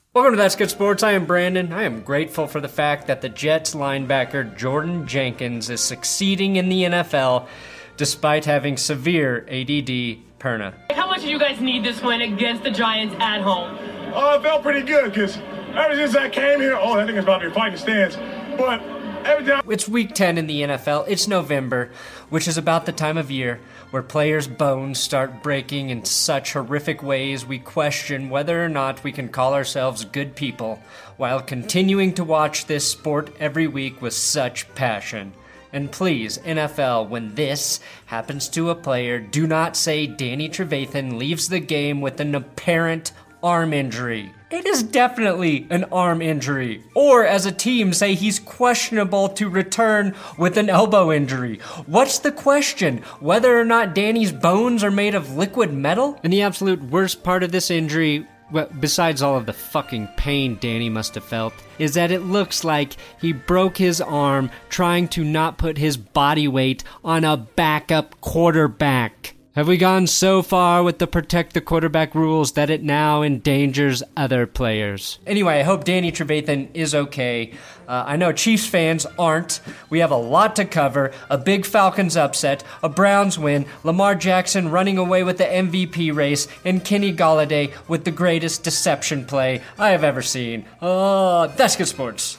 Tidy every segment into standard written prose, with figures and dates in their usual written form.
Welcome to That's Good Sports. I am Brandon. I am grateful for the fact that the Jets linebacker Jordan Jenkins is succeeding in the NFL despite having severe ADD perna. How much do you guys need this win against the Giants at home? Oh, it felt pretty good because ever since I came here, I think it's about to be fighting stance, but every time... It's week 10 in the NFL. It's November, which is about the time of year where players' bones start breaking in such horrific ways we question whether or not we can call ourselves good people while continuing to watch this sport every week with such passion. And please, NFL, when this happens to a player, do not say Danny Trevathan leaves the game with an apparent arm injury. It is definitely an arm injury. Or, as a team, say he's questionable to return with an elbow injury. What's the question? Whether or not Danny's bones are made of liquid metal? And the absolute worst part of this injury, well, besides all of the fucking pain Danny must have felt, is that it looks like he broke his arm trying to not put his body weight on a backup quarterback. Have we gone so far with the protect the quarterback rules that it now endangers other players? Anyway, I hope Danny Trevathan is okay. I know Chiefs fans aren't. We have a lot to cover. A big Falcons upset, a Browns win, Lamar Jackson running away with the MVP race, and Kenny Golladay with the greatest deception play I have ever seen. That's Good Sports.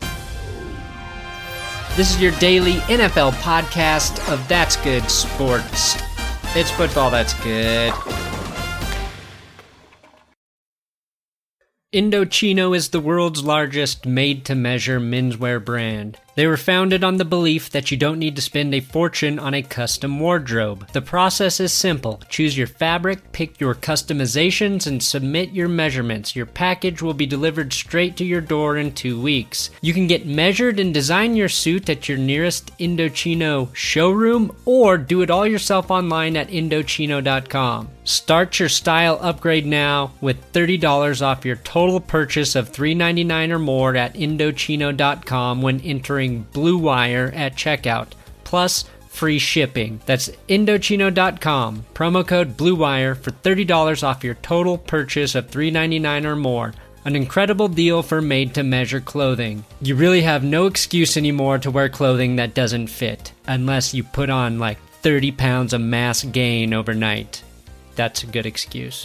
This is your daily NFL podcast of That's Good Sports. It's football that's good. Indochino is the world's largest made-to-measure menswear brand. They were founded on the belief that you don't need to spend a fortune on a custom wardrobe. The process is simple. Choose your fabric, pick your customizations, and submit your measurements. Your package will be delivered straight to your door in 2 weeks. You can get measured and design your suit at your nearest Indochino showroom, or do it all yourself online at Indochino.com. Start your style upgrade now with $30 off your total purchase of $3.99 or more at Indochino.com when entering Blue Wire at checkout, plus free shipping. That's Indochino.com. Promo code Blue Wire for $30 off your total purchase of $3.99 or more. An incredible deal for made-to-measure clothing. You really have no excuse anymore to wear clothing that doesn't fit, unless you put on like 30 pounds of mass gain overnight. That's a good excuse.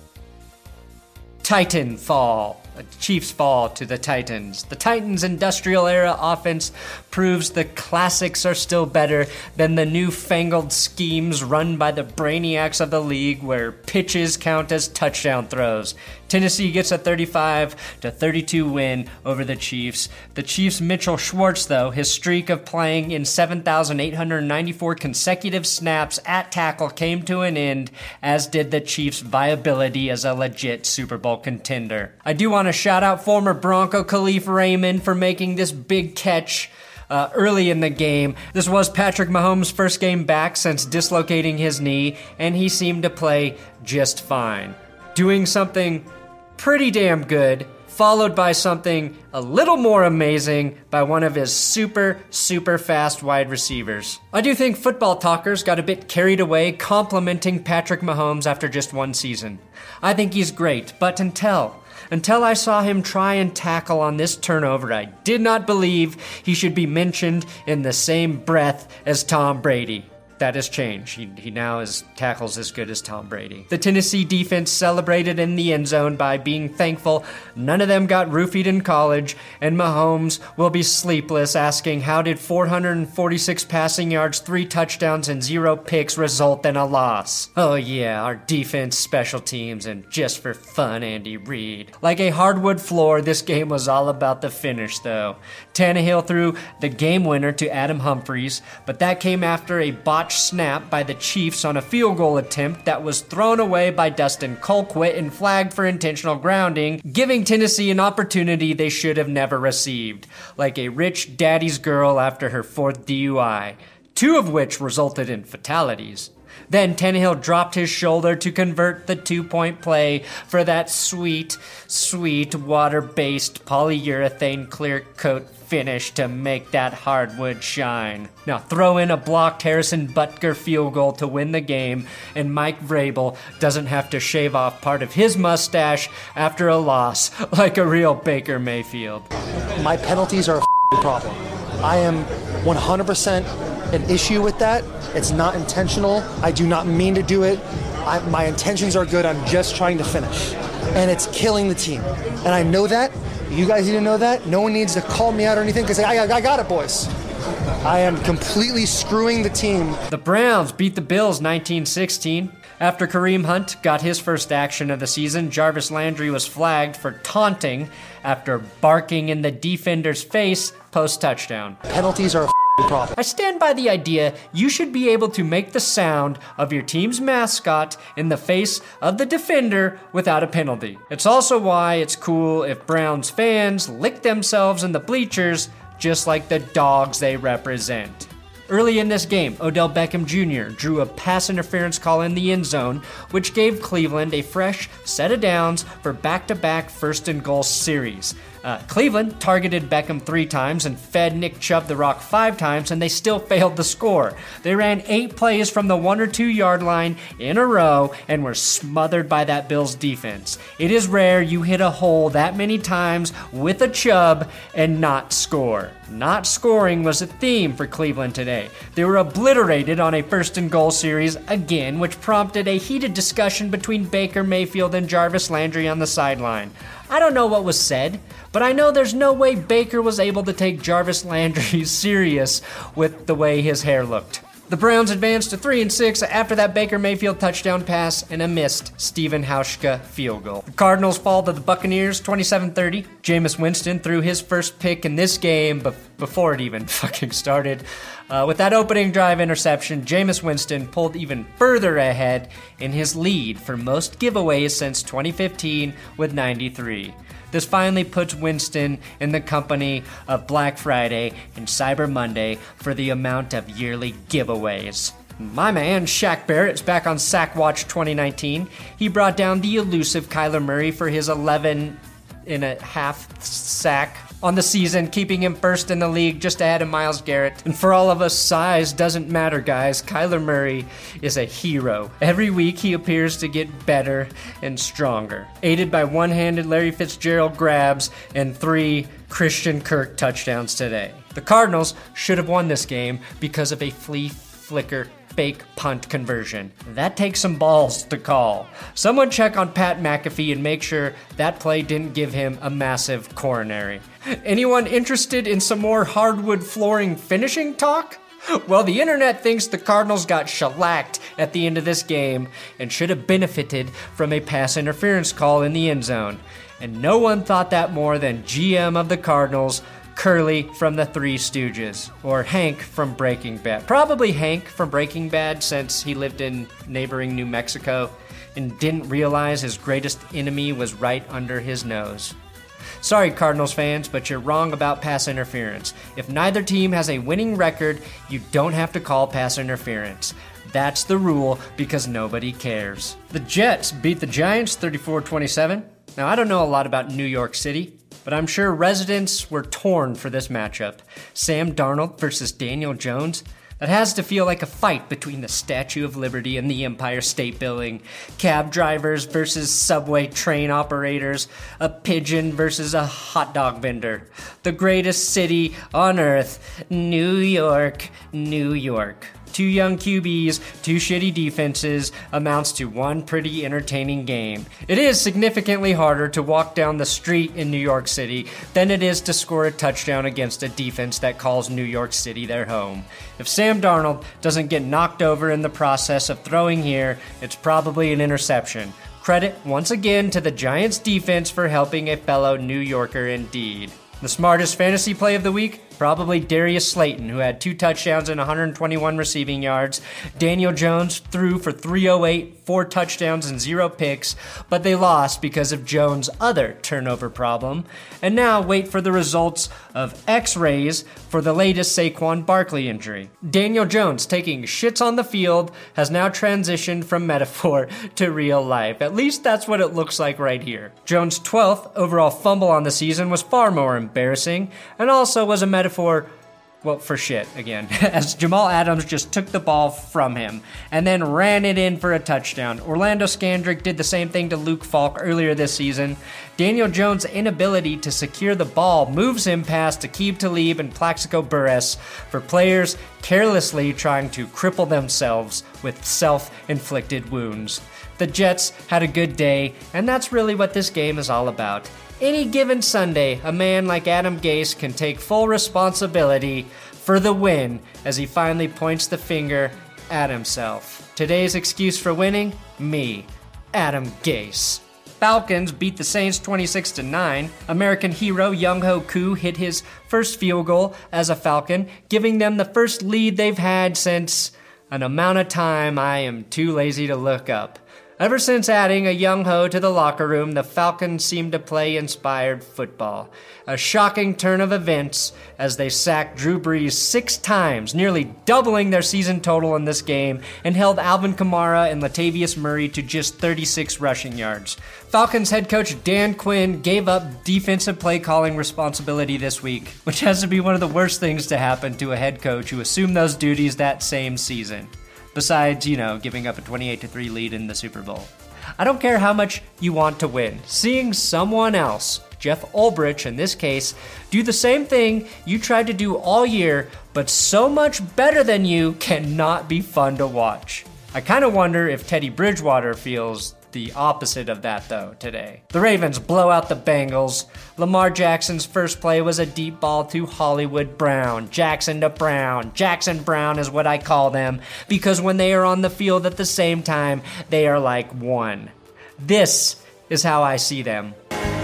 Titan fall. Chiefs fall to the Titans. The Titans' industrial era offense proves the classics are still better than the newfangled schemes run by the brainiacs of the league where pitches count as touchdown throws. Tennessee gets a 35-32 win over the Chiefs. The Chiefs' Mitchell Schwartz, though, his streak of playing in 7,894 consecutive snaps at tackle came to an end, as did the Chiefs' viability as a legit Super Bowl contender. I do want to shout out former Bronco Khalif Raymond for making this big catch early in the game. This was Patrick Mahomes' first game back since dislocating his knee, and he seemed to play just fine. Doing something pretty damn good, followed by something a little more amazing by one of his super fast wide receivers. I do think football talkers got a bit carried away complimenting Patrick Mahomes after just one season. I think he's great, but until I saw him try and tackle on this turnover, I did not believe he should be mentioned in the same breath as Tom Brady. That has changed. He now tackles as good as Tom Brady. The Tennessee defense celebrated in the end zone by being thankful none of them got roofied in college, and Mahomes will be sleepless asking how did 446 passing yards, 3 touchdowns, and 0 picks result in a loss? Oh yeah, our defense, special teams, and just for fun, Andy Reid. Like a hardwood floor, this game was all about the finish though. Tannehill threw the game winner to Adam Humphries, but that came after a botched snap by the Chiefs on a field goal attempt that was thrown away by Dustin Colquitt and flagged for intentional grounding, giving Tennessee an opportunity they should have never received, like a rich daddy's girl after her 4th DUI, 2 of which resulted in fatalities. Then Tannehill dropped his shoulder to convert the 2-point play for that sweet, sweet water-based polyurethane clear coat finish to make that hardwood shine. Now throw in a blocked Harrison Butker field goal to win the game, and Mike Vrabel doesn't have to shave off part of his mustache after a loss like a real Baker Mayfield. My penalties are a problem. I am 100% an issue with that. It's not intentional. I do not mean to do it. My intentions are good. I'm just trying to finish. And it's killing the team. And I know that. You guys need to know that. No one needs to call me out or anything because I got it, boys. I am completely screwing the team. The Browns beat the Bills 19-16. After Kareem Hunt got his first action of the season, Jarvis Landry was flagged for taunting after barking in the defender's face post-touchdown. Penalties are a problem. I stand by the idea you should be able to make the sound of your team's mascot in the face of the defender without a penalty. It's also why it's cool if Browns fans lick themselves in the bleachers just like the dogs they represent. Early in this game, Odell Beckham Jr. drew a pass interference call in the end zone, which gave Cleveland a fresh set of downs for back-to-back first-and-goal series. Cleveland targeted Beckham 3 times and fed Nick Chubb the rock 5 times, and they still failed to score. They ran 8 plays from the 1 or 2 yard line in a row and were smothered by that Bills defense. It is rare you hit a hole that many times with a Chubb and not score. Not scoring was a theme for Cleveland today. They were obliterated on a first-and-goal series again, which prompted a heated discussion between Baker Mayfield and Jarvis Landry on the sideline. I don't know what was said, but I know there's no way Baker was able to take Jarvis Landry serious with the way his hair looked. The Browns advanced to 3-6 after that Baker Mayfield touchdown pass and a missed Stephen Hauschka field goal. The Cardinals fall to the Buccaneers 27-30. Jameis Winston threw his first pick in this game before it even fucking started. With that opening drive interception, Jameis Winston pulled even further ahead in his lead for most giveaways since 2015 with 93. This finally puts Winston in the company of Black Friday and Cyber Monday for the amount of yearly giveaways. My man Shaq Barrett's back on Sack Watch 2019. He brought down the elusive Kyler Murray for his 11.5 sack on the season, keeping him first in the league just ahead of Myles Garrett. And for all of us, size doesn't matter, guys. Kyler Murray is a hero. Every week he appears to get better and stronger, aided by one-handed Larry Fitzgerald grabs and 3 Christian Kirk touchdowns today. The Cardinals should have won this game because of a flea flicker fake punt conversion. That takes some balls to call. Someone check on Pat McAfee and make sure that play didn't give him a massive coronary. Anyone interested in some more hardwood flooring finishing talk? Well, the internet thinks the Cardinals got shellacked at the end of this game and should have benefited from a pass interference call in the end zone. And no one thought that more than GM of the Cardinals, Curly from the Three Stooges, or Hank from Breaking Bad. Probably Hank from Breaking Bad, since he lived in neighboring New Mexico and didn't realize his greatest enemy was right under his nose. Sorry, Cardinals fans, but you're wrong about pass interference. If neither team has a winning record, you don't have to call pass interference. That's the rule because nobody cares. The Jets beat the Giants 34-27. Now, I don't know a lot about New York City, but I'm sure residents were torn for this matchup. Sam Darnold versus Daniel Jones. That has to feel like a fight between the Statue of Liberty and the Empire State Building. Cab drivers versus subway train operators. A pigeon versus a hot dog vendor. The greatest city on earth, New York, New York. 2 young QBs, 2 shitty defenses, amounts to one pretty entertaining game. It is significantly harder to walk down the street in New York City than it is to score a touchdown against a defense that calls New York City their home. If Sam Darnold doesn't get knocked over in the process of throwing here, it's probably an interception. Credit once again to the Giants defense for helping a fellow New Yorker indeed. The smartest fantasy play of the week? Probably Darius Slayton, who had 2 touchdowns and 121 receiving yards. Daniel Jones threw for 308, 4 touchdowns and 0 picks, but they lost because of Jones' other turnover problem. And now wait for the results of X-rays for the latest Saquon Barkley injury. Daniel Jones, taking shits on the field, has now transitioned from metaphor to real life. At least that's what it looks like right here. Jones' 12th overall fumble on the season was far more embarrassing, and also was a metaphor, well, for shit again, as Jamal Adams just took the ball from him and then ran it in for a touchdown. Orlando Scandrick did the same thing to Luke Falk earlier this season. Daniel Jones' inability to secure the ball moves him past Aqib Talib and Plaxico Burress for players carelessly trying to cripple themselves with self-inflicted wounds. The Jets had a good day, and that's really what this game is all about. Any given Sunday, a man like Adam Gase can take full responsibility for the win as he finally points the finger at himself. Today's excuse for winning? Me, Adam Gase. Falcons beat the Saints 26-9. American hero Younghoe Koo hit his first field goal as a Falcon, giving them the first lead they've had since an amount of time I am too lazy to look up. Ever since adding a Younghoe to the locker room, the Falcons seem to play inspired football. A shocking turn of events as they sacked Drew Brees 6 times, nearly doubling their season total in this game, and held Alvin Kamara and Latavius Murray to just 36 rushing yards. Falcons head coach Dan Quinn gave up defensive play calling responsibility this week, which has to be one of the worst things to happen to a head coach who assumed those duties that same season. Besides, giving up a 28-3 lead in the Super Bowl. I don't care how much you want to win. Seeing someone else, Jeff Ulbrich in this case, do the same thing you tried to do all year, but so much better than you, cannot be fun to watch. I kind of wonder if Teddy Bridgewater feels the opposite of that, though, today. The Ravens blow out the Bengals. Lamar Jackson's first play was a deep ball to Hollywood Brown. Jackson to Brown. Jackson Brown is what I call them, because when they are on the field at the same time, they are like one. This is how I see them.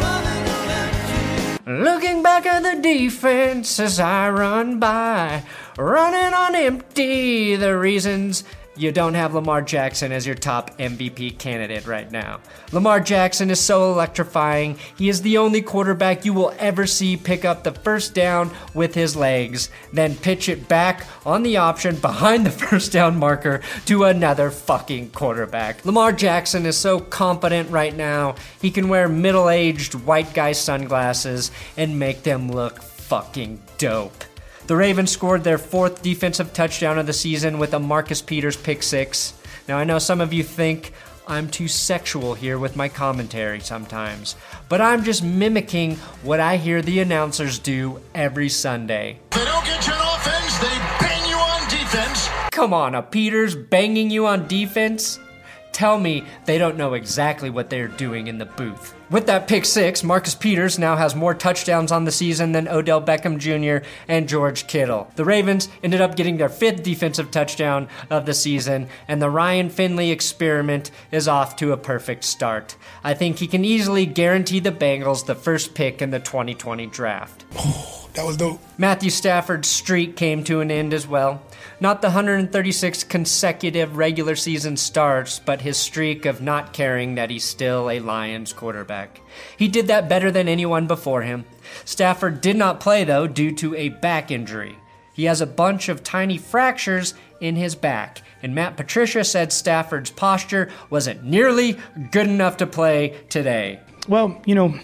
Looking back at the defense as I run by, running on empty, the reasons you don't have Lamar Jackson as your top MVP candidate right now. Lamar Jackson is so electrifying. He is the only quarterback you will ever see pick up the first down with his legs, then pitch it back on the option behind the first down marker to another fucking quarterback. Lamar Jackson is so confident right now, he can wear middle-aged white guy sunglasses and make them look fucking dope. The Ravens scored their 4th defensive touchdown of the season with a Marcus Peters pick 6. Now, I know some of you think I'm too sexual here with my commentary sometimes, but I'm just mimicking what I hear the announcers do every Sunday. They don't get you on offense, they bang you on defense. Come on, a Peters banging you on defense? Tell me they don't know exactly what they're doing in the booth. With that pick 6, Marcus Peters now has more touchdowns on the season than Odell Beckham Jr. and George Kittle. The Ravens ended up getting their 5th defensive touchdown of the season, and the Ryan Finley experiment is off to a perfect start. I think he can easily guarantee the Bengals the first pick in the 2020 draft. Oh, that was dope. Matthew Stafford's streak came to an end as well. Not the 136 consecutive regular season starts, but his streak of not caring that he's still a Lions quarterback. He did that better than anyone before him. Stafford did not play, though, due to a back injury. He has a bunch of tiny fractures in his back, and Matt Patricia said Stafford's posture wasn't nearly good enough to play today. Well,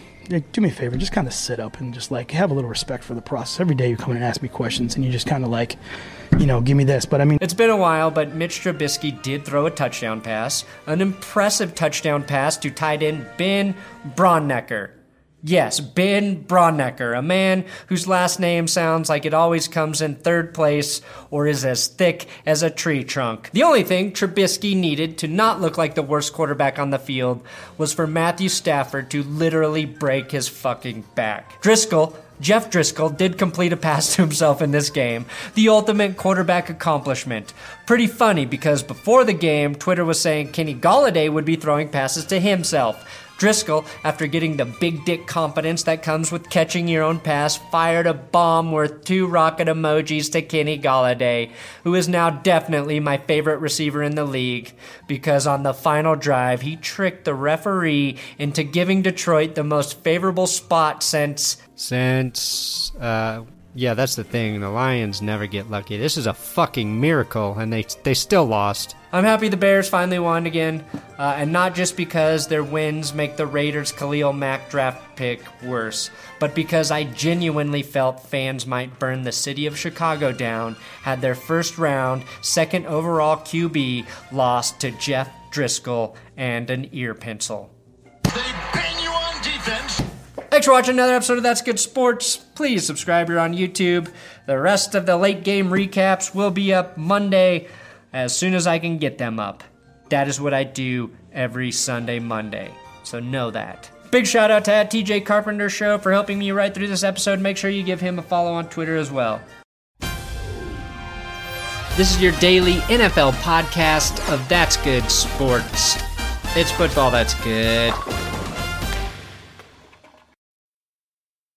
do me a favor, just kind of sit up and just have a little respect for the process. Every day you come in and ask me questions and you just kind of give me this. But I mean, it's been a while, but Mitch Trubisky did throw a touchdown pass, an impressive touchdown pass to tight end Ben Braunecker. Yes, Ben Braunecker, a man whose last name sounds like it always comes in 3rd place or is as thick as a tree trunk. The only thing Trubisky needed to not look like the worst quarterback on the field was for Matthew Stafford to literally break his fucking back. Jeff Driscoll did complete a pass to himself in this game, the ultimate quarterback accomplishment. Pretty funny because before the game, Twitter was saying Kenny Golladay would be throwing passes to himself. Driscoll, after getting the big dick confidence that comes with catching your own pass, fired a bomb worth 2 rocket emojis to Kenny Golladay, who is now definitely my favorite receiver in the league, because on the final drive, he tricked the referee into giving Detroit the most favorable spot since, yeah, that's the thing. The Lions never get lucky. This is a fucking miracle, and they still lost. I'm happy the Bears finally won again, and not just because their wins make the Raiders' Khalil Mack draft pick worse, but because I genuinely felt fans might burn the city of Chicago down had their first round, second overall QB lost to Jeff Driscoll and an ear pencil. They bang you on defense. Thanks for watching another episode of That's Good Sports. Please subscribe here on YouTube. The rest of the late game recaps will be up Monday as soon as I can get them up. That is what I do every Sunday, Monday. So know that. Big shout out to @TJ Carpenter Show for helping me write through this episode. Make sure you give him a follow on Twitter as well. This is your daily NFL podcast of That's Good Sports. It's football that's good.